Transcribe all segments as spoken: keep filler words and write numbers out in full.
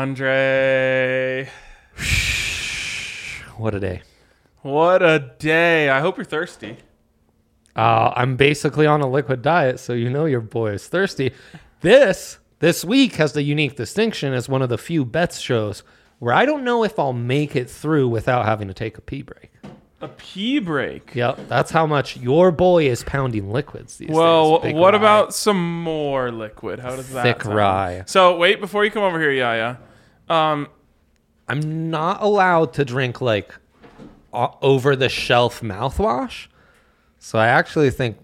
Andre. What a day. What a day. I hope you're thirsty. Uh, I'm basically on a liquid diet, so you know your boy is thirsty. This, this week has the unique distinction as one of the few bets shows where I don't know if I'll make it through without having to take a pee break. A pee break? Yep, that's how much your boy is pounding liquids these well, days. Well, what rye. about some more liquid? How does that Thick sound? rye. So, wait, before you come over here, Yaya. Um, I'm not allowed to drink, like, uh, over-the-shelf mouthwash. So I actually think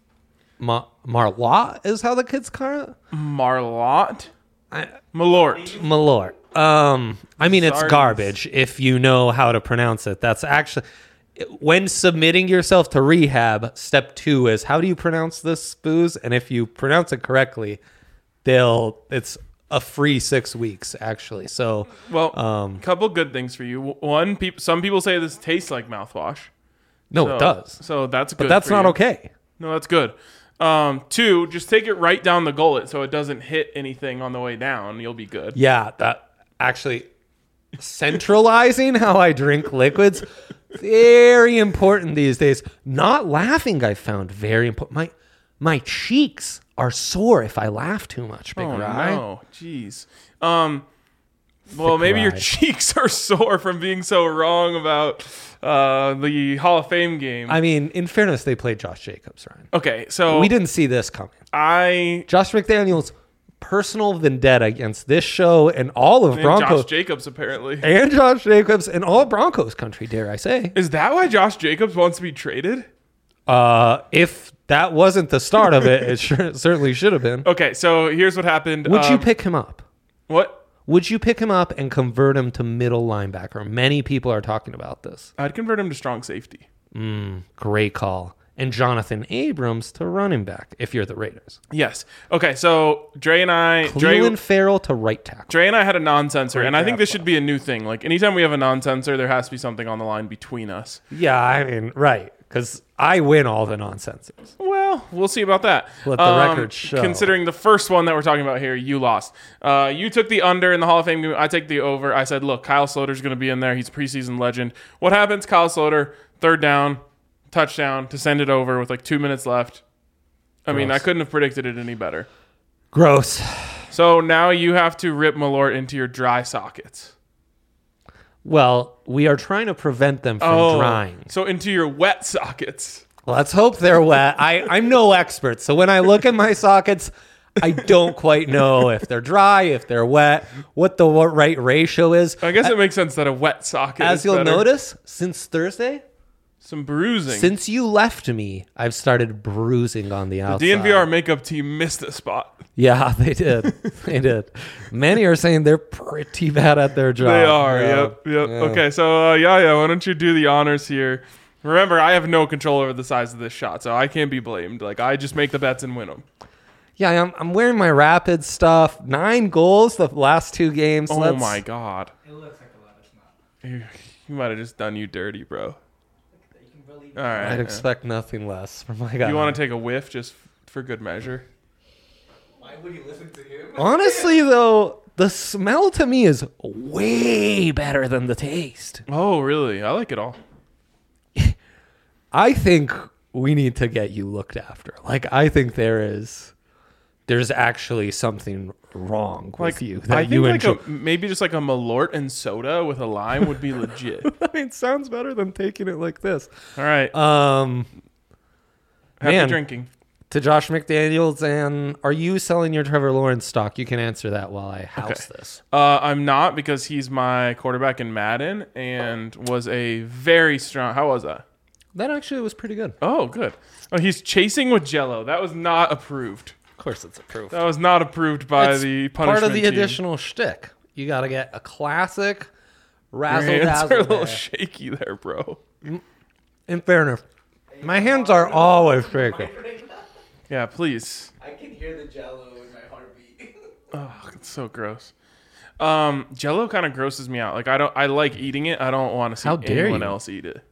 Ma- Marlot is how the kids call it. Marlot? I, Malort. Malort. Um, I mean, it's Sardines. garbage if you know how to pronounce it. That's actually, when submitting yourself to rehab, step two is how do you pronounce this booze? And if you pronounce it correctly, they'll, it's a free six weeks actually. So, Well, um, couple good things for you. One, peop- some people say this tastes like mouthwash. no, So- it does. So that's good. But that's for not you. okay. No, that's good. Um, two, just take it right down the gullet so it doesn't hit anything on the way down. You'll be good. Yeah, that actually centralizing how I drink liquids, very important these days. Not laughing, I found very important. My my cheeks are sore if I laugh too much. Big Oh Rye. no, jeez. Um, well, Thick maybe your rye. cheeks are sore from being so wrong about uh, the Hall of Fame game. I mean, in fairness, they played Josh Jacobs, Ryan. okay, so We didn't see this coming. I Josh McDaniels' personal vendetta against this show and all of and Broncos Josh Jacobs apparently. and Josh Jacobs and all Broncos country, dare I say. Is that why Josh Jacobs wants to be traded? Uh, if that wasn't the start of it, it sure, certainly should have been. Okay, so here's what happened. Would you Um, pick him up? what? Would you pick him up and convert him to middle linebacker? Many people are talking about this. I'd convert him to strong safety. Great call. And Jonathan Abrams to running back if you're the Raiders. Yes. Okay, so Dre and I, Cleveland Dre, Farrell to right tackle. Dre and I had a non-sensor, Great and I think this draft should be a new thing. Like anytime we have a non-sensor, there has to be something on the line between us. Yeah, I mean, right. Because I win all the nonsenses. Well, we'll see about that. Let the record show. Considering the first one that we're talking about here, you lost. Uh, you took the under in the Hall of Fame game. I take the over. I said, look, Kyle Sloter's going to be in there. He's a preseason legend. What happens? Kyle Sloter, third down, touchdown to send it over with like two minutes left. I mean, I Gross. couldn't have predicted it any better. Gross. So now you have to rip Malort into your dry sockets. Well, we are trying to prevent them from drying. So into your wet sockets. Let's hope they're wet. I, I'm no expert. So when I look at my sockets, I don't quite know if they're dry, if they're wet, what the what right ratio is. I guess it makes sense that a wet socket As is you'll better. notice, since Thursday, Some bruising. since you left me, I've started bruising on the outside. D N V R makeup team missed a spot. Yeah, they did. They did. Many are saying they're pretty bad at their job. They are. Yeah. Yep. Yep. Yeah. Okay. So, uh, yeah, yeah. Why don't you do the honors here? Remember, I have no control over the size of this shot, so I can't be blamed. Like, I just make the bets and win them. Yeah, I'm, I'm wearing my Rapid stuff. Nine goals the last two games. Oh, Let's- my God. It looks like a lot. It's not. You, you might have just done you dirty, bro. You can believe All right. I'd yeah. expect nothing less from my guy. You want to take a whiff just f- for good measure? Why would you listen to him? Honestly, though, the smell to me is way better than the taste. Oh, really? I like it all. I think we need to get you looked after. Like, I think there is, there's actually something wrong with Like you that I think you like enjoy. a, maybe just like a Malort and soda with a lime would be legit. I mean, it sounds better than taking it like this. All right. Um, Happy man. drinking. to Josh McDaniels, and are you selling your Trevor Lawrence stock? You can answer that while I house Okay. this. Uh, I'm not because he's my quarterback in Madden and was a very strong. How was that? That actually was pretty good. Oh, good. Oh, he's chasing with Jello. That was not approved. Of course, it's approved. That was not approved by It's the punishment part of the team. additional shtick. You got to get a classic Your razzle hands are a dazzle. little there. shaky there, bro. In fairness, my hands are always shaking. Yeah, please. I can hear the jello in my heartbeat. Oh, it's so gross. Um, Jello kind of grosses me out. Like I don't. I like eating it. I don't want to see How dare anyone you. else eat it.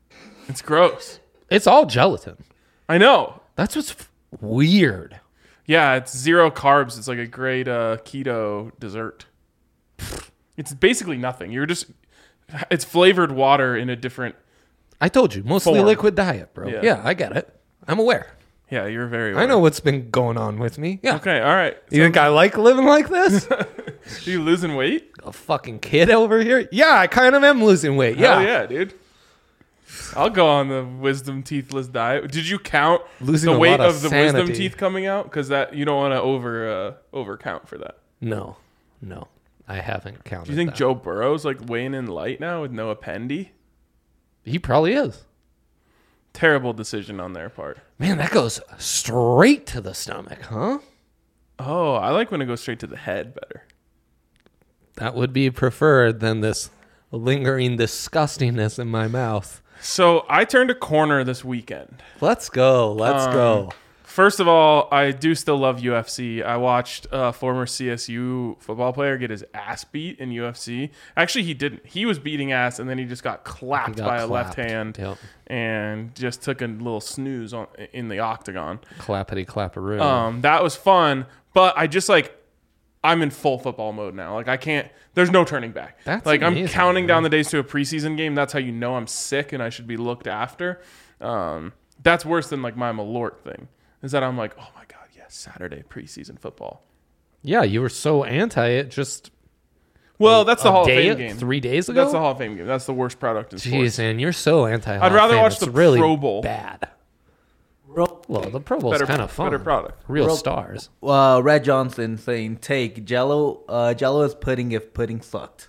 It's gross. It's all gelatin. I know. That's what's f- weird. Yeah, it's zero carbs. It's like a great uh, keto dessert. It's basically nothing. You're just, it's flavored water in a different. I told you, mostly Form. liquid diet, bro. Yeah. Yeah. I get it. I'm aware. Yeah, you're very. I know what's been going on with me. Yeah. Okay, all right. You think I like living like this? Are you losing weight? A fucking kid over here? Yeah, I kind of am losing weight. Yeah. Hell yeah, dude. I'll go on the wisdom teethless diet. Did you count Losing the a weight lot of of the wisdom sanity. teeth coming out? Because that you don't want to over uh, over count for that. No. No. I haven't counted. Do you think that. Joe Burrow's like weighing in light now with no appendy? He probably is. Terrible decision on their part. Man, that goes straight to the stomach, huh? Oh, I like when it goes straight to the head better. That would be preferred than this lingering disgustingness in my mouth. So I turned a corner this weekend. Let's go. Let's Um, go. First of all, I do still love U F C. I watched a former C S U football player get his ass beat in U F C. Actually, he didn't. He was beating ass, and then he just got clapped He got by a clapped. left hand Yep. and just took a little snooze on in the octagon. Clappity clapperoo. Um, that was fun, but I just like I'm in full football mode now. Like I can't. There's no turning back. That's like I'm amazing, counting man. down the days to a preseason game. That's how you know I'm sick and I should be looked after. Um, that's worse than like my Malort thing. Is that I'm like, oh my god, yes, Saturday preseason football. yeah, you were so anti it just Well, that's the a Hall day, of Fame game. three days ago. That's the Hall of Fame game. That's the worst product in Jeez, sports. man, you're so anti. I'd rather watch the really Pro Bowl. Bad. Ro- Well, the Pro Bowl's Better, kind of fun. better product. Real Ro- stars. uh, Red Johnson saying, "Take Jello. Uh, Jello is pudding if pudding sucked."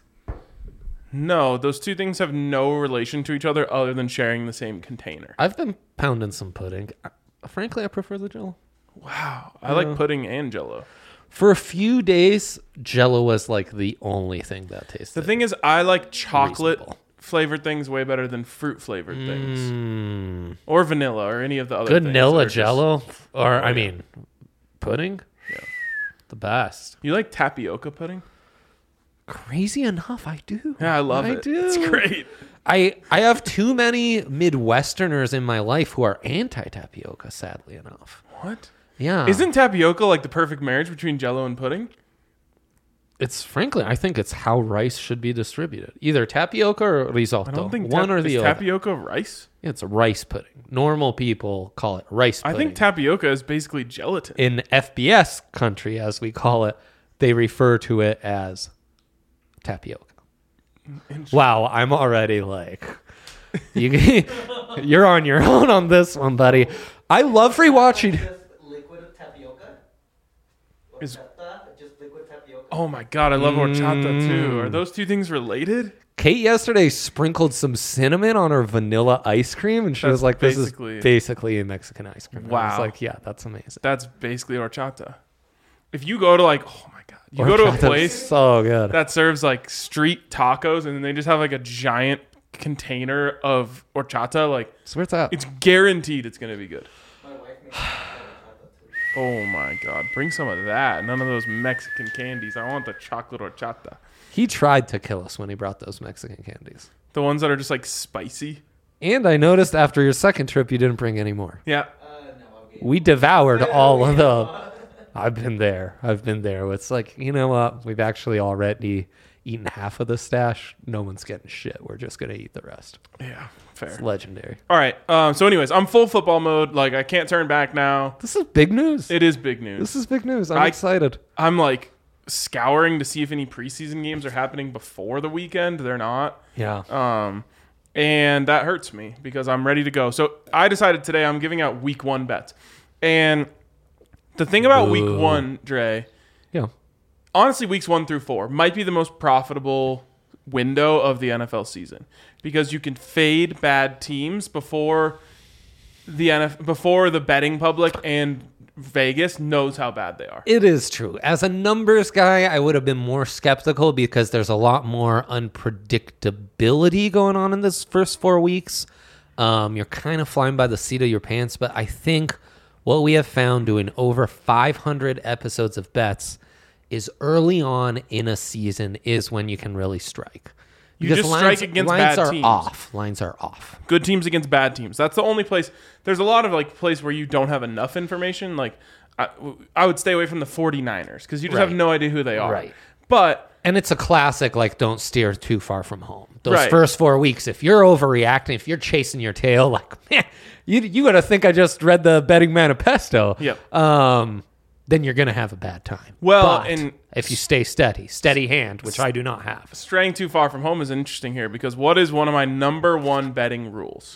No, those two things have no relation to each other other than sharing the same container. I've been pounding some pudding. I- Frankly, I prefer the Jello. Wow, I like pudding and Jello. For a few days, Jello was like the only thing that tasted. The thing is, I like chocolate Reasonable. flavored things way better than fruit flavored things, Mm, or vanilla, or any of the other. good things Nilla that are just- Jello, or I yeah. mean, pudding. Yeah. The best. You like tapioca pudding? Crazy enough, I do. Yeah, I love I it. do. It's great. I I have too many Midwesterners in my life who are anti tapioca. Sadly enough. What? Yeah. Isn't tapioca like the perfect marriage between Jello and pudding? It's frankly, I think it's how rice should be distributed. Either tapioca or risotto. I don't think one tap- or the is other. tapioca rice. It's a rice pudding. Normal people call it rice I pudding. think tapioca is basically gelatin. In F B S country, as we call it, they refer to it as tapioca. Wow, I'm already like, you, you're on your own on this one, buddy. I love rewatching. Just liquid tapioca. Is- Horchata, just liquid tapioca. Oh my god, I love horchata too. Mm. Are those two things related? Kate yesterday sprinkled some cinnamon on her vanilla ice cream, and she That's was like, "This basically- is basically a Mexican ice cream." And I was Wow. like, "Yeah, that's amazing." That's basically horchata. If you go to like, oh my god, you go to a Horchata's place so good. that serves like street tacos and then they just have like a giant container of horchata, like So where's that? it's guaranteed it's gonna be good. My wife makes horchata too. Oh my god, bring some of that. None of those Mexican candies. I want the chocolate horchata. He tried to kill us when he brought those Mexican candies. The ones that are just like spicy. And I noticed after your second trip, you didn't bring any more. Yeah. Uh, no, I'll get We devoured all of them. I've been there. I've been there. It's like, you know what? We've actually already eaten half of the stash. No one's getting shit. We're just going to eat the rest. Yeah, fair. It's legendary. All right. Um, so, anyways, I'm full football mode. Like, I can't turn back now. This is big news. It is big news. This is big news. I'm I- excited. I'm like scouring to see if any preseason games are happening before the weekend. They're not. Yeah. Um, and that hurts me because I'm ready to go. So I decided today I'm giving out week one bets. And the thing about week Ooh. one, Dre, Yeah. honestly, weeks one through four might be the most profitable window of the N F L season because you can fade bad teams before the N F L, before the betting public and Vegas knows how bad they are. It is true. As a numbers guy, I would have been more skeptical because there's a lot more unpredictability going on in this first four weeks. Um, you're kind of flying by the seat of your pants, but I think what we have found doing over five hundred episodes of bets is early on in a season is when you can really strike. You Because just lines, strike against lines bad are teams. off. Lines are off. Good teams against bad teams. That's the only place. There's a lot of like place where you don't have enough information. Like I, I would stay away from the 49ers because you just Right. have no idea who they are. Right. But And it's a classic, like, don't steer too far from home. Those Right. first four weeks, if you're overreacting, if you're chasing your tail, like, man, you you gotta think I just read the Betting Manifesto. Yep. Um, then you're gonna have a bad time. Well, But and- if you stay steady, steady hand, which I do not have. straying too far from home is interesting here because what is one of my number one betting rules?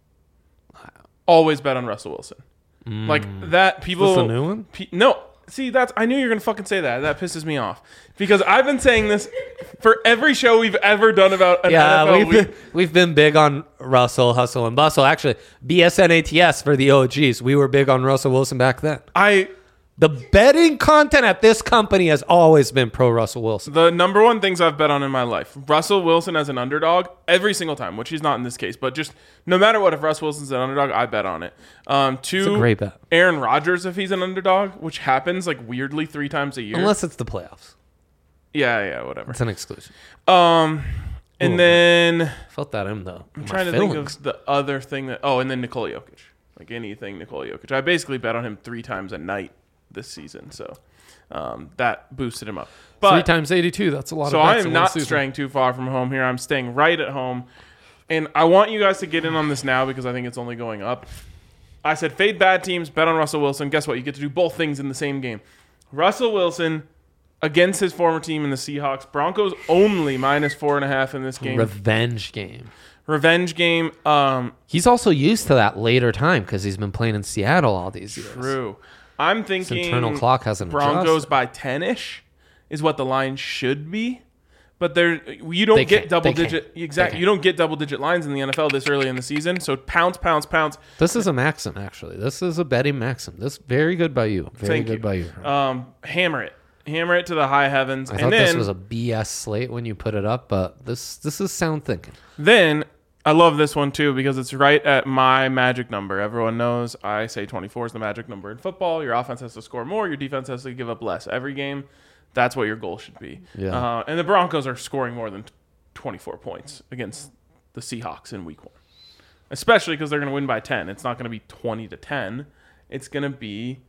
Always bet on Russell Wilson. Like that people. this a new one? Pe- no. See, that's I knew you were gonna fucking say that. That pisses me off because I've been saying this for every show we've ever done about an N F Yeah, L we've week. been, we've been big on Russell, hustle, and bustle. Actually, B S N A T S for the O Gs. We were big on Russell Wilson back then. I The betting content at this company has always been pro Russell Wilson. the number one things I've bet on in my life: Russell Wilson as an underdog every single time, which he's not in this case, but just no matter what, if Russell Wilson's an underdog, I bet on it. Um, two, a great bet. Aaron Rodgers if he's an underdog, which happens like weirdly three times a year. Unless it's the playoffs. yeah, yeah, whatever. It's an exclusion. Um, and Ooh. then Felt that in though. I'm trying to think of the other thing that. Oh, and then Nikola Jokic, like anything Nikola Jokic. I basically bet on him three times a night this season, so um, that boosted him up. But Three times eighty-two. That's a lot so of I bets am in one not season. straying too far from home here. I'm staying right at home. And I want you guys to get in on this now because I think it's only going up. I said fade bad teams, bet on Russell Wilson. Guess what? You get to do both things in the same game. Russell Wilson against his former team in the Seahawks. Broncos only minus four and a half in this game. Revenge game. Revenge game. Um, He's also used to that later time because he's been playing in Seattle all these years. true. I'm His thinking internal clock hasn't Broncos adjusted. by ten-ish is what the line should be. But there, you don't They get can't. double They digit. can't. Exactly, They you don't get double digit lines in the N F L this early in the season. So pounce, pounce, pounce. This is a maxim, actually. This is a betting maxim. This very good by you. Very Thank good you. by you. Um, hammer it, hammer it to the high heavens, I and thought then this was a B S slate when you put it up, but this this is sound thinking. then I love this one too because it's right at my magic number. Everyone knows I say twenty-four is the magic number in football. Your offense has to score more. Your defense has to give up less every game. That's what your goal should be. Yeah. Uh, and the Broncos are scoring more than twenty-four points against the Seahawks in week one, especially because they're going to win by ten. It's not going to be twenty to ten. It's going to be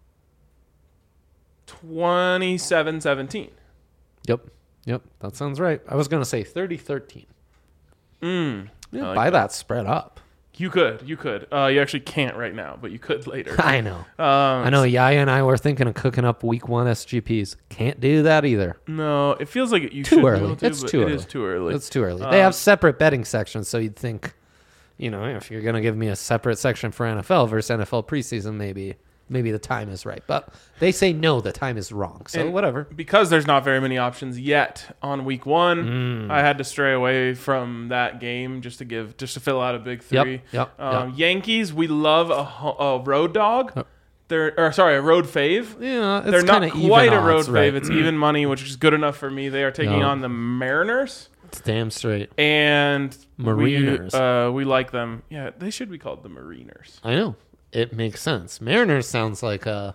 twenty-seven seventeen. Yep. Yep. That sounds right. I was going to say thirty thirteen. Mm, Yeah, I like buy that. that spread up. You could. You could. Uh, you actually can't right now, but you could later. I know. Um, I know Yaya and I were thinking of cooking up week one S G Ps. Can't do that either. No, it feels like you Too should be early. able to, It's but too it early. is too early. It's too early. Um, They have separate betting sections, so you'd think, you know, if you're going to give me a separate section for N F L versus N F L preseason, maybe maybe the time is right. But they say no, the time is wrong. So And whatever. Because there's not very many options yet on week one, Mm. I had to stray away from that game just to give, just to fill out a big Yep, three. yep, Um, yep. Yankees, we love a, ho- a road dog. Yep. They're, or sorry, a road fave. Yeah, it's They're not kinda quite even a road odds, right? fave. It's even money, which is good enough for me. They are taking No. on the Mariners. It's damn straight. And Mariners. We, uh, we like them. Yeah, they should be called the Mariners. I know. It makes sense. Mariners sounds like a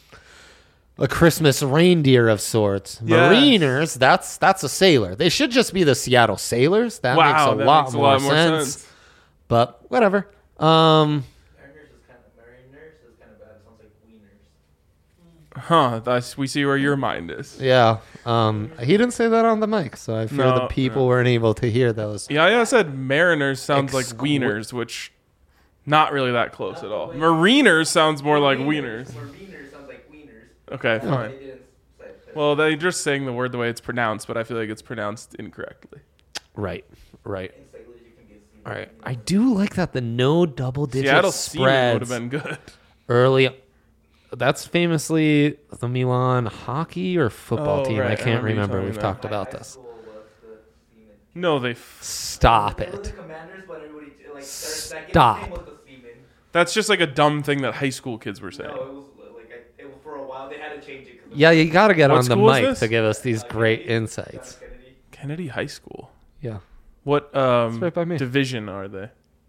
a Christmas reindeer of sorts. Yes. Mariners, that's that's a sailor. They should just be the Seattle Sailors. That wow, makes a that lot, makes a more, lot more sense. sense. But whatever. Um, Mariners is kind of Mariners is kind of bad. It sounds like wieners. Huh? That's we see where your mind is. yeah. Um, he didn't say that on the mic, so I fear No, the people no. weren't able to hear those. Yeah, yeah. I said Mariners sounds like Exqui- wieners, which not really that close at all. Mariners sounds more like wieners. Mariners sounds like wieners. Okay, They fine. didn't say it. Well, they just saying the word the way it's pronounced, but I feel like it's pronounced incorrectly. Right. Right. In sailors, you can get semen. All right. I do like that the no double digit Seattle Seaman would spreads have been good. early. That's famously the Milan hockey or football Oh, team. right. I I can't remember you remember. telling We've me talked My about high this. school was the semen. No, they. F- Stop They were the it. Commanders, but everybody like their second Stop. name was the semen. that's just like a dumb thing that high school kids were saying. No, it was like I, it was for a while. They had to change it. 'cause of Yeah, you got to get What on the school is mic this? to give us these uh, great Kennedy, insights. John Kennedy. Kennedy High School. Yeah. What um, right by me. division are they? I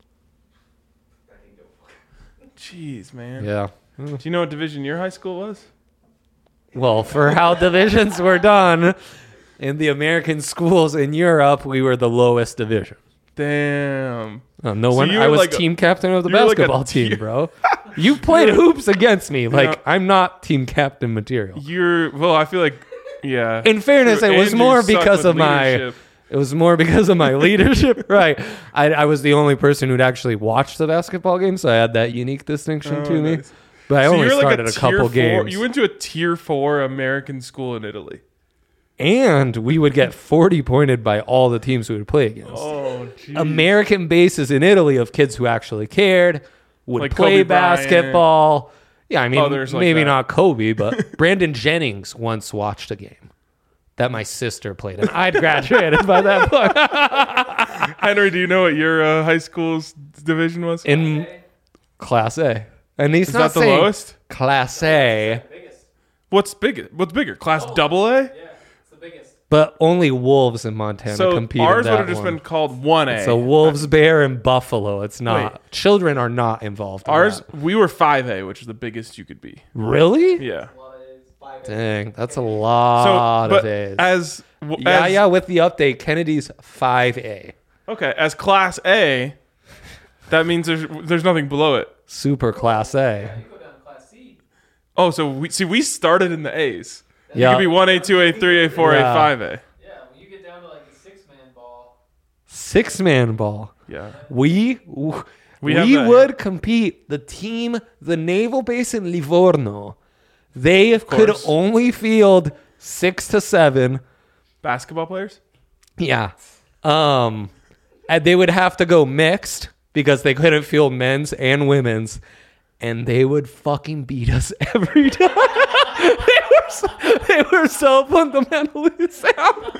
can go. Jeez, man. Yeah. Do you know what division your high school was? Well, for how divisions were done in the American schools in Europe, we were the lowest division. Damn. Oh, no So one. you I were was like a- team captain of the you were like a basketball tier- team, bro. You played hoops against me. Like, know- I'm not team captain material. You're well. I feel like, yeah. In fairness, True, it was and you more suck because with of my. leadership. It was more because of my leadership, right? I, I was the only person who'd actually watched the basketball game, so I had that unique distinction Oh, to me. nice. But I So only you're like started a, tier couple four, games, You went to a tier four American school in Italy. and we would get forty pointed by all the teams we would play against. Oh, geez. American bases in Italy of kids who actually cared, would Like play Kobe Bryant. basketball. Yeah, I mean, Others like maybe that. not Kobe, but Brandon Jennings once watched a game that my sister played, and I'd graduated by that point. Henry, do you know what your uh, high school's division was? In Class A. And he's Is not that the saying lowest? Class A, What's bigger? What's bigger? Class double A? but only Wolves in Montana So compete ours in would that have just one. been called one A. So Wolves, Bear, and Buffalo. It's not. Wait. Children are not involved in Ours, that. we were five A, which is the biggest you could be. Really? Yeah. Dang, that's a So, lot but of A's. as, w- Yeah, as yeah, with the update, Kennedy's five A. okay, as Class A, that means there's there's nothing below it. Super Class A. Oh, so we see we started in the A's. You Yeah. could be one A, two A, three A, four A, Yeah. five A. Yeah, when you get down to like the six man ball. Six man ball. Yeah. We we, We have that would compete. The team, the naval base in Livorno, they could course. only field six to seven. Basketball players? Yeah. Um, and they would have to go mixed because they couldn't field men's and women's, and they would fucking beat us every time. they were so, they were so fundamentally sound.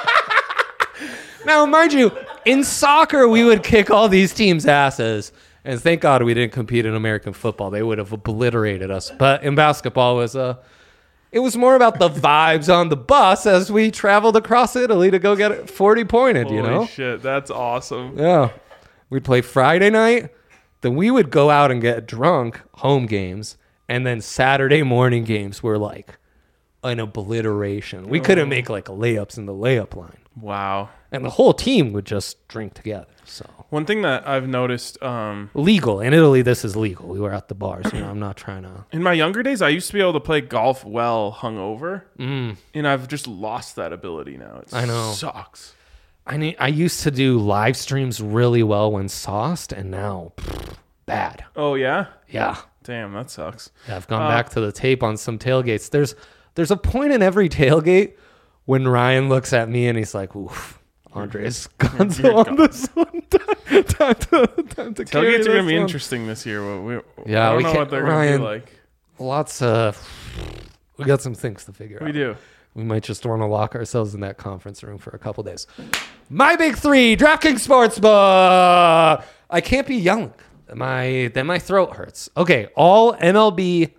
Now, mind you, in soccer we would kick all these teams' asses, and thank God we didn't compete in American football. They would have obliterated us. But in basketball, it was a. It was more about the vibes on the bus as we traveled across Italy to go get it forty pointed, you Holy know? shit, that's awesome. Yeah. We'd play Friday night, then we would go out and get drunk, home games, and then Saturday morning games were like an obliteration. We couldn't make like layups in the layup line. Wow. And the whole team would just drink together. So One thing that I've noticed um, legal. In Italy, this is legal. We were at the bars. You know, I'm not trying to. in my younger days, I used to be able to play golf well hungover, Mm. and I've just lost that ability now. It I know. sucks. I need, I used to do live streams really well when sauced, and now pfft, bad. Oh yeah, Yeah. damn, that sucks. Yeah, I've gone Uh, back to the tape on some tailgates. There's there's a point in every tailgate when Ryan looks at me and he's like, "Oof, Andres Gonzo you're on this one. time, time to, time to carry Tailgates are gonna this be one." interesting this year. What we, Yeah, I don't we know can't- what they're Ryan- gonna be like. Lots of. We got some things to figure out. We do. We might just want to lock ourselves in that conference room for a couple days. My big three, DraftKings Sportsbook. I can't be yelling. My then my throat hurts. Okay, all M L B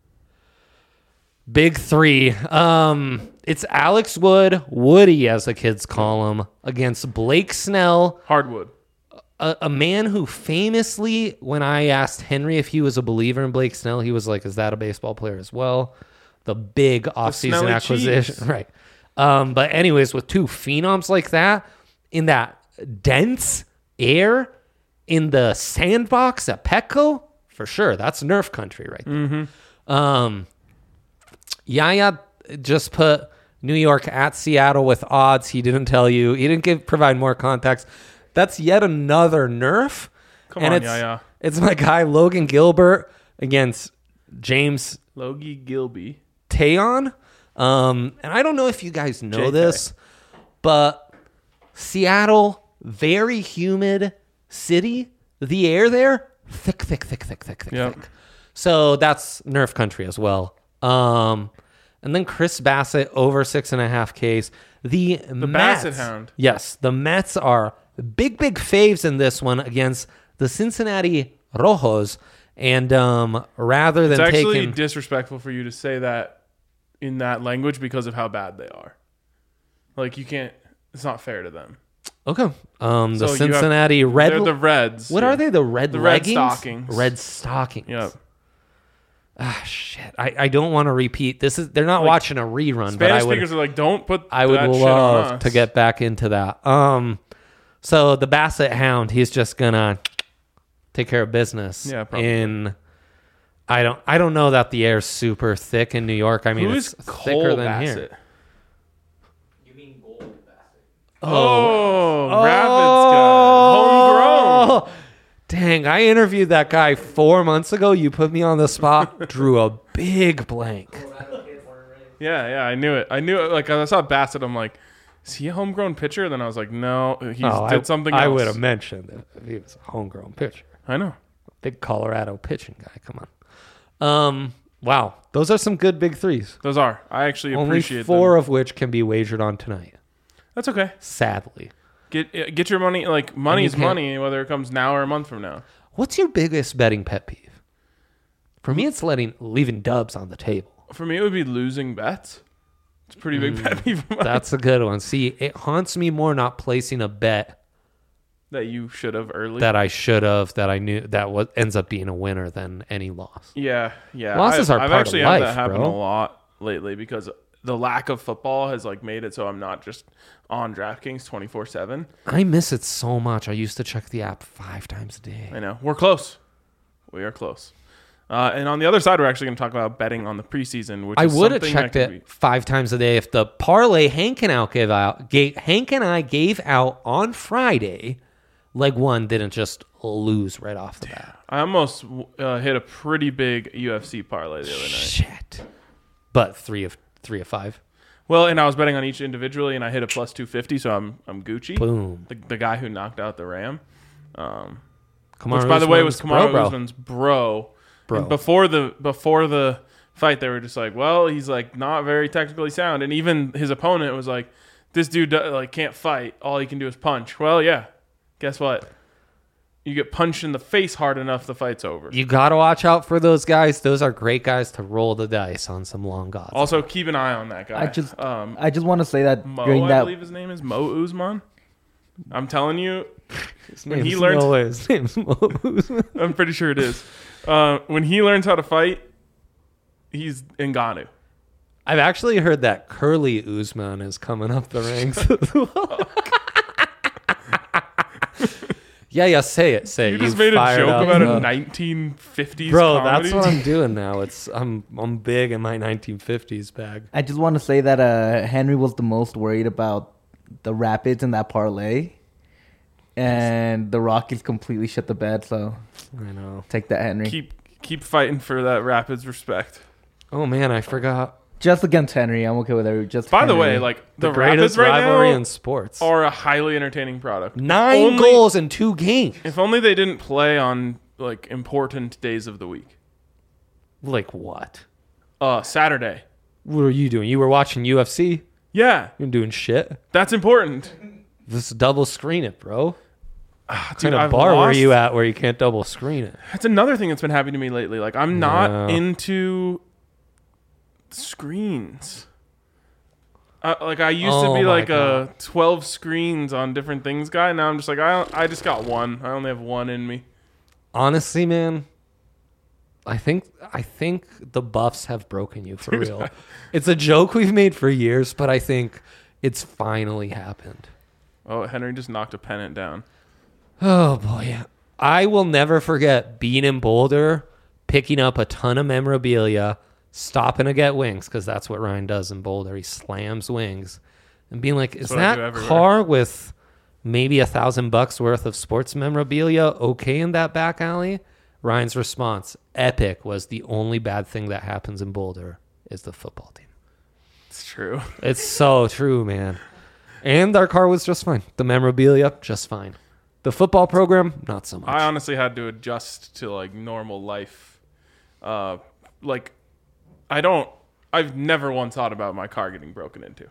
big three. Um, it's Alex Wood, Woody as the kids call him, against Blake Snell, Hardwood. a, a man who famously, when I asked Henry if he was a believer in Blake Snell, he was like, "Is that a baseball player as well?" The big offseason Snelly acquisition, cheese. right? Um, but anyways, with two phenoms like that in that dense air in the sandbox at Petco, for sure, that's Nerf country right there. Mm-hmm. Um, Yaya just put New York at Seattle with odds. He didn't tell you. He didn't give provide more context. That's yet another Nerf. Come and on, it's, Yaya. It's my guy Logan Gilbert against James Logie Gilby. Tayon. Um, and I don't know if you guys know J K. this, but Seattle, very humid city. The air there, thick, thick, thick, thick, thick, thick, Yep. thick. So that's Nerf country as well. Um, and then Chris Bassett over six and a half Ks. The, the Mets, Bassett Hound. Yes, the Mets are big, big faves in this one against the Cincinnati Rojos. And um, rather than It's actually taking disrespectful for you to say that in that language because of how bad they are. Like you can't. It's not fair to them. okay, um, the So you have- Cincinnati Red. They're the Reds. What are they? The red The red leggings? stockings. Red stockings. Yep. Ah, shit. I, I don't want to repeat. This is they're not Like, watching a rerun, but I Spanish would speakers are like, don't put. I would that shit on love us. to get back into that. Um, so the Bassett Hound, he's just gonna take care of business Yeah, probably. in I don't. I don't know that the air's super thick in New York. I mean, Who it's is thicker Cole than Bassett? here. You mean gold basket? Oh, Oh. Rapids guy. Homegrown. Dang, I interviewed that guy four months ago. You put me on the spot. Drew a big blank. Yeah, yeah, I knew it. I knew it. Like, I saw Bassett. I'm like, is he a homegrown pitcher? Then I was like, no, he Oh, did I, something else. I would have mentioned it if he was a homegrown pitcher. I know. Big Colorado pitching guy. Come on. Um. Wow, those are some good big threes. Those are. I actually Only appreciate four them. of which can be wagered on tonight. That's okay. Sadly. Get uh, get your money. Like, money's can't- money, whether it comes now or a month from now. What's your biggest betting pet peeve? For me, it's letting leaving dubs on the table. For me, it would be losing bets. It's a pretty big Mm. pet peeve of mine. That's a good one. See, it haunts me more not placing a bet that you should have early. that I should have, that I knew that was ends up being a winner than any loss. yeah, yeah. Losses I, are I've part of actually life, had that happen bro. a lot lately because the lack of football has like made it so I'm not just on DraftKings twenty-four seven. I miss it so much. I used to check the app five times a day. I know. We're close. We are close. Uh, and on the other side, we're actually going to talk about betting on the preseason, which I is would have something that checked could it be- five times a day if the parlay Hank and out gave out. Gave, Hank and I gave out on Friday. Leg one didn't just lose right off the bat. I almost uh, hit a pretty big U F C parlay the other night. Shit. But three of three of five. Well, and I was betting on each individually, and I hit a plus two fifty, so I'm I'm Gucci. Boom. The, the guy who knocked out the Ram. Um, Kamaru Which, by the way, was Usman's Kamaru bro, bro. Usman's bro. Bro. And before the before the fight, they were just like, "Well, he's like not very technically sound," and even his opponent was like, "This dude do- like can't fight. All he can do is punch." Well, yeah. Guess what? You get punched in the face hard enough, the fight's over. You got to watch out for those guys. Those are great guys to roll the dice on some long odds. Also, keep an eye on that guy. I just um, I just want to say that Mo, during I that believe his name is Mo Usman. I'm telling you, His when he name's- learns- no way. His name's Mo Usman. I'm pretty sure it is. Uh, when he learns how to fight, he's Ngannou. I've actually heard that Curly Usman is coming up the ranks as well. yeah, yeah, say it, say it. You just You made a fired joke up, about uh, a nineteen fifties Bro, comedy. that's what I'm doing now. It's I'm I'm big in my nineteen fifties bag. I just want to say that uh, Henry was the most worried about the Rapids in that parlay, and the Rockies completely shut the bed. So I know. take that, Henry. keep keep fighting for that Rapids respect. Oh man, I forgot. Just against Henry, I'm okay with it. Just By the Henry. way, like The, the, greatest Rapids right rivalry now in sports. are a highly entertaining product. Nine Only- goals in two games. If only they didn't play on like important days of the week. Like what? Uh, Saturday. What were you doing? You were watching U F C? Yeah, You're doing shit. that's important. Just double screen it, bro. Ah, What dude, kind of I've bar were lost- you at where you can't double screen it? That's another thing that's been happening to me lately. Like I'm not Yeah. into screens. Uh, like I used Oh to be my like God. a twelve screens on different things guy. Now I'm just like I don't, I just got one. I only have one in me. Honestly, man, I think I think the Buffs have broken you for real. It's a joke we've made for years, but I think it's finally happened. Oh, Henry just knocked a pennant down. Oh boy, I will never forget being in Boulder, picking up a ton of memorabilia, stopping to get wings because that's what Ryan does in Boulder. He slams wings, and being like, "Is what I do that everywhere." car with maybe a thousand bucks worth of sports memorabilia okay in that back alley?" Ryan's response, epic, was the only bad thing that happens in Boulder is the football team. It's true. It's so true, man. And our car was just fine. The memorabilia, just fine. The football program, not so much. I honestly had to adjust to like normal life. Uh, like I don't. I've never once thought about my car getting broken into.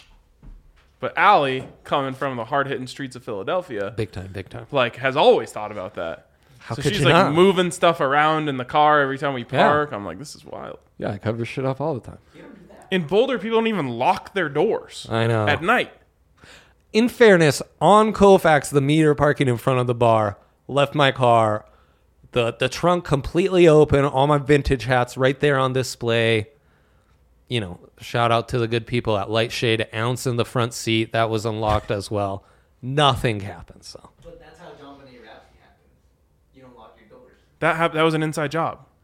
But Allie, coming from the hard-hitting streets of Philadelphia, Big time, big time. like has always thought about that. How so could she's you like not? moving stuff around in the car every time we Yeah. park. I'm like, this is wild. Yeah, I cover shit up all the time. In Boulder, people don't even lock their doors I know. at night. In fairness, on Colfax, the meter parking in front of the bar, left my car, the the trunk completely open, all my vintage hats right there on display. You know, shout out to the good people at Lightshade, ounce in the front seat, that was unlocked as well. Nothing happened, so. But that's how John Benet Ramsey happens. You don't lock your doors. That hap- that was an inside job.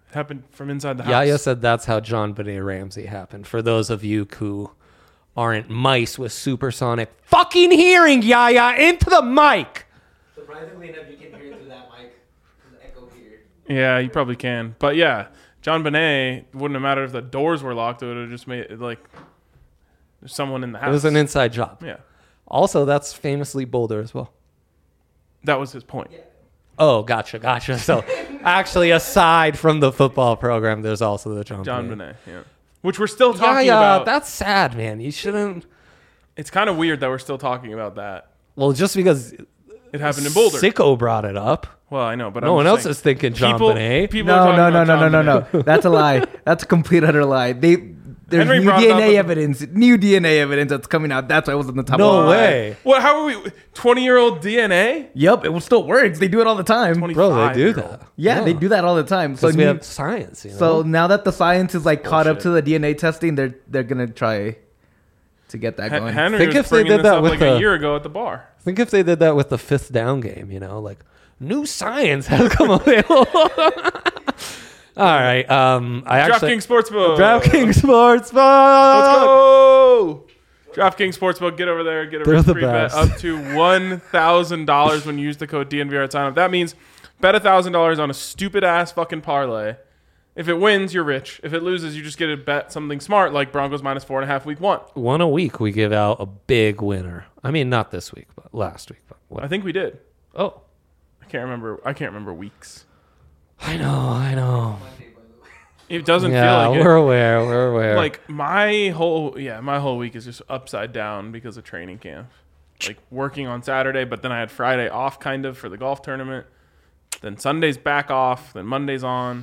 It happened from inside the house. Yaya said that's how John Benet Ramsey happened. For those of you who aren't mice with supersonic fucking hearing, Yaya, into the mic. Surprisingly enough, you can hear through that mic. The echo here. Yeah, you probably can. But yeah, John Benet wouldn't have mattered if the doors were locked. It would have just made it like there's someone in the house. It was an inside job. Yeah. Also, that's famously Boulder as well. That was his point. Oh, gotcha, gotcha. So, actually, aside from the football program, there's also the John, John Benet. Benet, yeah. Which we're still Yeah, talking yeah, about. that's sad, man. You shouldn't. It's kind of weird that we're still talking about that. Well, just because It happened in Boulder. Sicko brought it up. Well, I know, but No I'm one just else saying, is thinking John people, Benet. People are No, talking no, no, about no, no, John no, Benet. no. That's a lie. That's a complete utter lie. They there's Henry new brought it D up N A with- evidence, new D N A evidence that's coming out. That's why it was on the top. No of the way. What? How are we? twenty-year-old D N A? Yep, it still works. They do it all the time. Bro, they do twenty-five-year-old. that. Yeah, they do that all the time. So Because we new- have science, you know? So now that the science is like caught up Bullshit. to the D N A testing, they're they're gonna try to get that Hen- going. Henry Think was if they bringing did this that up with like the- a year ago at the bar. Think if they did that with the fifth down game, you know, like new science has come available. All right. Um, I actually DraftKings Sportsbook. DraftKings Sportsbook. Let's go. DraftKings Sportsbook. Get over there. Get a They're the risk-free bet best. up to one thousand dollars when you use the code D N V R at sign up. That means bet one thousand dollars on a stupid-ass fucking parlay. If it wins, you're rich. If it loses, you just get to bet something smart like Broncos minus four and a half week one. One a week, we give out a big winner. I mean, not this week, but last week. But what? I think we did. Oh, I can't remember. I can't remember weeks. I know, I know. Monday, by the way. It doesn't Yeah, feel like we're it. aware. We're aware. Like my whole yeah, my whole week is just upside down because of training camp. Like working on Saturday, but then I had Friday off kind of for the golf tournament. Then Sunday's back off, then Monday's on.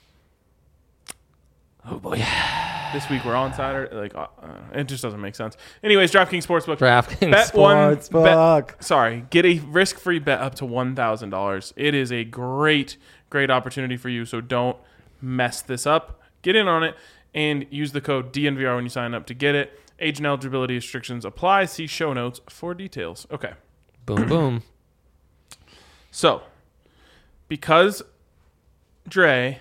oh boy. This week we're on Saturday. Like uh, uh, it just doesn't make sense. Anyways, DraftKings Sportsbook. DraftKings Bet one- Sportsbook. Sorry, get a risk-free bet up to one thousand dollars. It is a great, great opportunity for you. So don't mess this up. Get in on it and use the code D N V R when you sign up to get it. Age and eligibility restrictions apply. See show notes for details. Okay, Boom, boom. so because Dre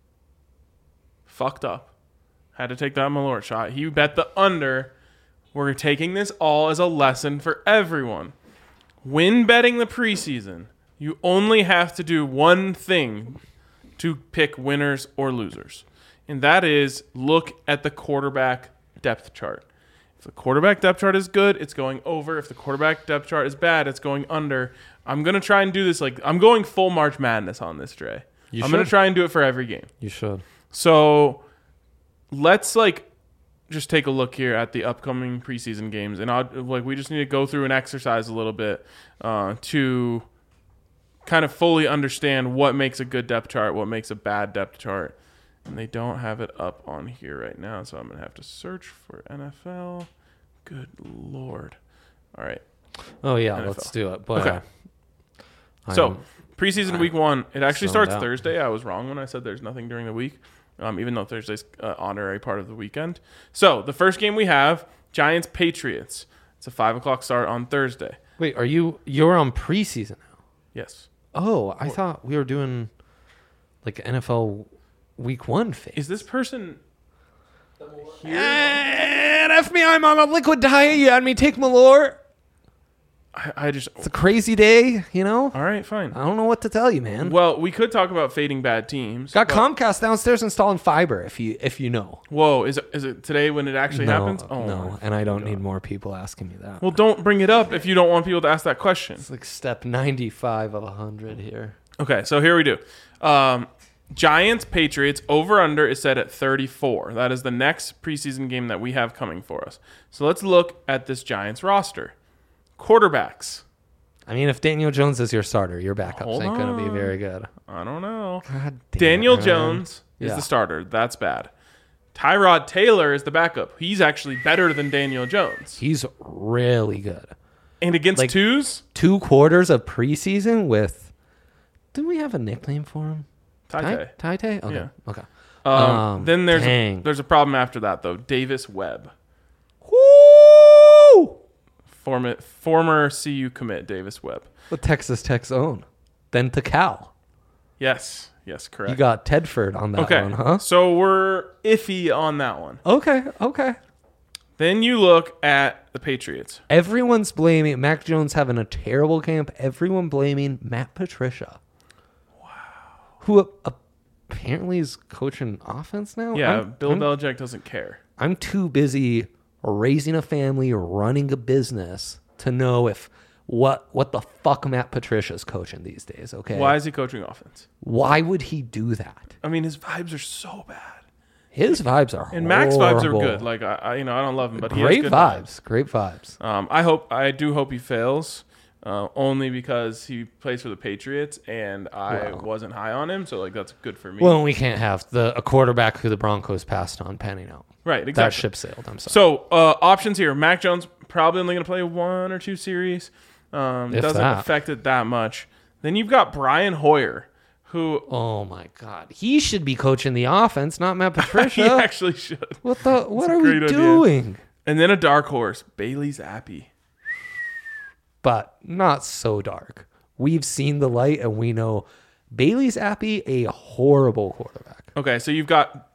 fucked up, had to take that Malort shot. He bet the under. We're taking this all as a lesson for everyone. When betting the preseason, you only have to do one thing to pick winners or losers, and that is look at the quarterback depth chart. If the quarterback depth chart is good, it's going over. If the quarterback depth chart is bad, it's going under. I'm going to try and do this like I'm going full March Madness on this, Dre. You I'm going to should. try and do it for every game. You should. So let's like just take a look here at the upcoming preseason games, and I'll, like we just need to go through an exercise a little bit uh, to kind of fully understand what makes a good depth chart, what makes a bad depth chart. And they don't have it up on here right now, so I'm gonna have to search for N F L. Good lord! All right. Oh, yeah, N F L. let's do it. But, Okay. uh, So I'm- preseason week one, it actually zoned starts out. Thursday. I was wrong when I said there's nothing during the week, um, even though Thursday's uh, honorary part of the weekend. So the first game we have Giants Patriots. It's a five o'clock start on Thursday. wait, are you, you're on preseason now? Yes. Oh, I thought we were doing like N F L week one phase. Is this person here? And F me, I'm on a liquid diet. You had me take Malort. I, I just. It's a crazy day, you know? All right, fine. I don't know what to tell you, man. Well, we could talk about fading bad teams. Got but- Comcast downstairs installing fiber if you if you know. Whoa, is it is it today when it actually no, happens? Oh no, my and I don't God. need more people asking me that. Well, don't bring it up if you don't want people to ask that question. It's like step ninety-five of one hundred here. Okay, so here we do. Um, Giants Patriots over under is set at thirty-four. That is the next preseason game that we have coming for us. So let's look at this Giants roster. Quarterbacks. I mean, if Daniel Jones is your starter, your backups Hold ain't going to be on. very good. I don't know. God damn Daniel it, man. Jones is Yeah. the starter. That's bad. Tyrod Taylor is the backup. He's actually better than Daniel Jones. He's really good. And against Like- twos, Two quarters of preseason with. Didn't we have a nickname for him? Ty Ty Tay? Okay. Yeah. Okay. Um, Um, then there's a, dang. there's a problem after that though. Davis Webb, Woo! former former C U commit Davis Webb. The Texas Tech's own. Then to Cal. Yes, Yes, correct. You got Tedford on that okay. one, huh? So we're iffy on that one. Okay, okay. Then you look at the Patriots. Everyone's blaming Mac Jones having a terrible camp. Everyone blaming Matt Patricia. Wow. Who apparently is coaching offense now? Yeah, I'm, Bill I'm, Belichick doesn't care. I'm too busy raising a family or running a business to know if what what the fuck Matt Patricia's coaching these days, okay? Why is he coaching offense? Why would he do that? I mean, his vibes are so bad. His vibes are And Mac's vibes are horrible. good. Like I, I, you know, I don't love him, but he Great has good vibes. Great vibes. Um, I hope, I do hope he fails, uh, only because he plays for the Patriots, and I Wow. wasn't high on him, so like that's good for me. Well, we can't have the a quarterback who the Broncos passed on panning out. right, exactly. That ship sailed. I'm sorry. So uh, options here: Mac Jones probably only going to play one or two series. Um, If doesn't that. affect it that much. Then you've got Brian Hoyer, who Oh my God, he should be coaching the offense, not Matt he Patricia. actually should. what the? What a are we great idea. doing? And then a dark horse, Bailey Zappi. But not so dark. We've seen the light, and we know Bailey Zappi, a horrible quarterback. Okay, so you've got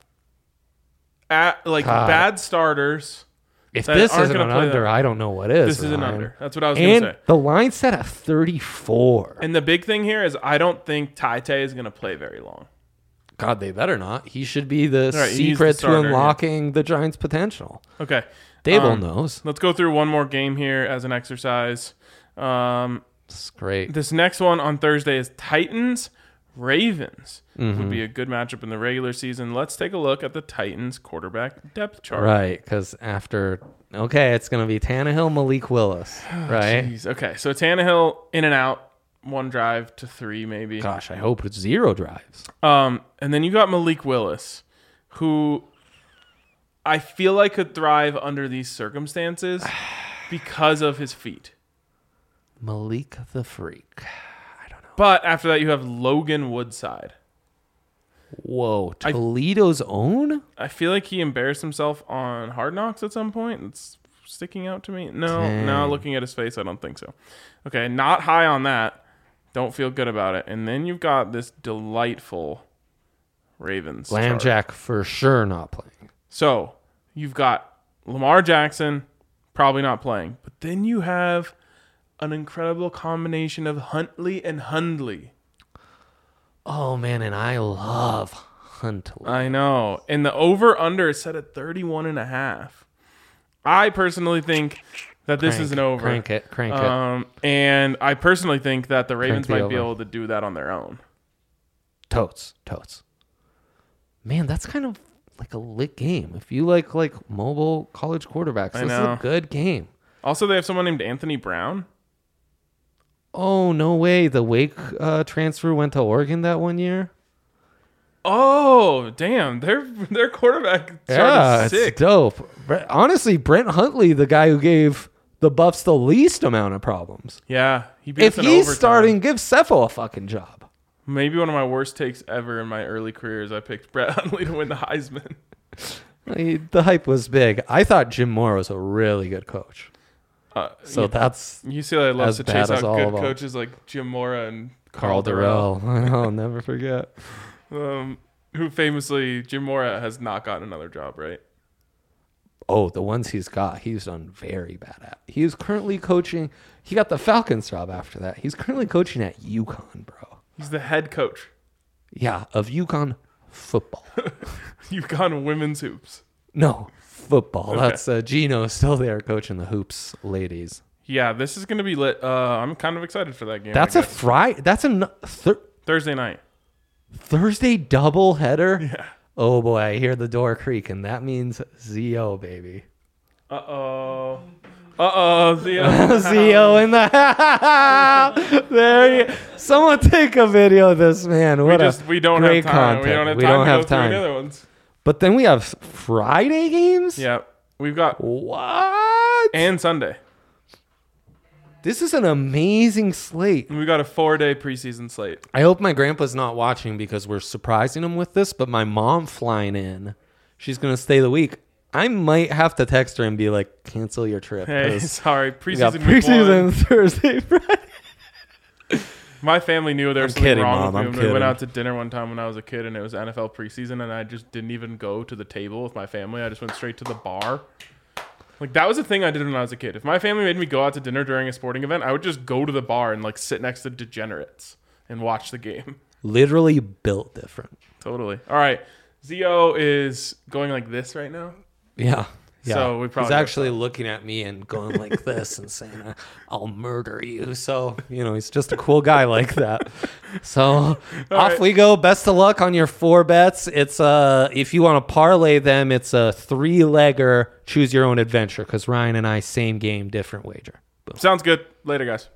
at, like God. bad starters. If That this aren't isn't gonna an play under, that. I don't know what is. This is an Ryan. under. That's what I was going And to say. the line set at thirty-four. And the big thing here is I don't think Ty Tay is going to play very long. God, they better not. He should be the Right, he's secret the to starter, unlocking the Giants' potential. Okay. Dable Um, knows. Let's go through one more game here as an exercise. Um, It's great. this next one on Thursday is Titans Ravens. Mm-hmm. Would be a good matchup in the regular season. Let's take a look at the Titans quarterback depth chart. Right, because after okay, it's gonna be Tannehill, Malik Willis, right? Jeez. Okay, so Tannehill in and out, one drive to three maybe. Gosh, I hope it's zero drives. Um, and then you got Malik Willis, who I feel like could thrive under these circumstances because of his feet. Malik the Freak. I don't know. But after that, you have Logan Woodside. Whoa, I- Toledo's own? I feel like he embarrassed himself on Hard Knocks at some point. It's sticking out to me. No, Dang. no, looking at his face, I don't think so. Okay, not high on that. Don't feel good about it. And then you've got this delightful Ravens chart. Lambjack for sure not playing. So you've got Lamar Jackson probably not playing. But then you have an incredible combination of Huntley and Hundley. Oh man, and I love Huntley. I know. And the over-under is set at thirty-one and a half. I personally think that this Crank- is an over. Crank it, crank it. Um, and I personally think that the Ravens the might be over. able to do that on their own. Totes, totes. Man, that's kind of like a lit game. If you like like mobile college quarterbacks, I this know. is a good game. Also, they have someone named Anthony Brown. Oh no way! The Wake uh, transfer went to Oregon that one year. Oh, damn. Their their quarterback Yeah, is it's sick. dope. Bre- Honestly, Brent Huntley, the guy who gave the Buffs the least amount of problems. Yeah. He beat If us in he's overtime. starting, give Cepho a fucking job. Maybe one of my worst takes ever in my early career is I picked Brett Hundley to win the Heisman. He- The hype was big. I thought Jim Moore was a really good coach. Uh, So yeah, that's U C L A loves as to bad chase as out all good of 'em. coaches like Jim Mora and Carl Durrell. I'll never forget. Um, who famously, Jim Mora has not gotten another job, right? Oh, the ones he's got, he's done very bad at. He is currently coaching. He got the Falcons job after that. He's currently coaching at UConn, bro. He's the head coach. Yeah, of UConn football. You've gone women's hoops. No, football. Okay. That's uh, Gino still there coaching the hoops ladies. Yeah, this is going to be lit. Uh, I'm kind of excited for that game. That's I a guess. Friday. That's a n- thir- Thursday night. Thursday double header. Yeah. Oh boy, I hear the door creaking. That means Z O, baby. Uh oh. Uh oh. Theo. Z O in the house. There you. Someone take a video of this man. We What just a we don't great have time. content. We don't have We time don't to have go through time. any other ones. But then we have Friday games. Yeah, we've got What? and Sunday. This is an amazing slate. We got a four-day preseason slate. I hope my grandpa's not watching because we're surprising him with this, but my mom flying in, she's going to stay the week. I might have to text her and be like, cancel your trip. Hey, 'cause sorry, we got preseason. week one. preseason Thursday, Friday. My family knew there was I'm something kidding, wrong Mom, with me I'm when we kidding. went out to dinner one time when I was a kid, and it was N F L preseason, and I just didn't even go to the table with my family. I just went straight to the bar. Like, that was a thing I did when I was a kid. If my family made me go out to dinner during a sporting event, I would just go to the bar and like sit next to degenerates and watch the game. Literally built different. Totally. All right. Zio is going like this right now. Yeah. Yeah. So we probably he's actually looking at me and going like this and saying, "I'll murder you." So you know, he's just a cool guy like that. So off right. we go. Best of luck on your four bets. It's uh, if you want to parlay them, it's a three legger. Choose your own adventure because Ryan and I same game, different wager. Boom. Sounds good. Later, guys.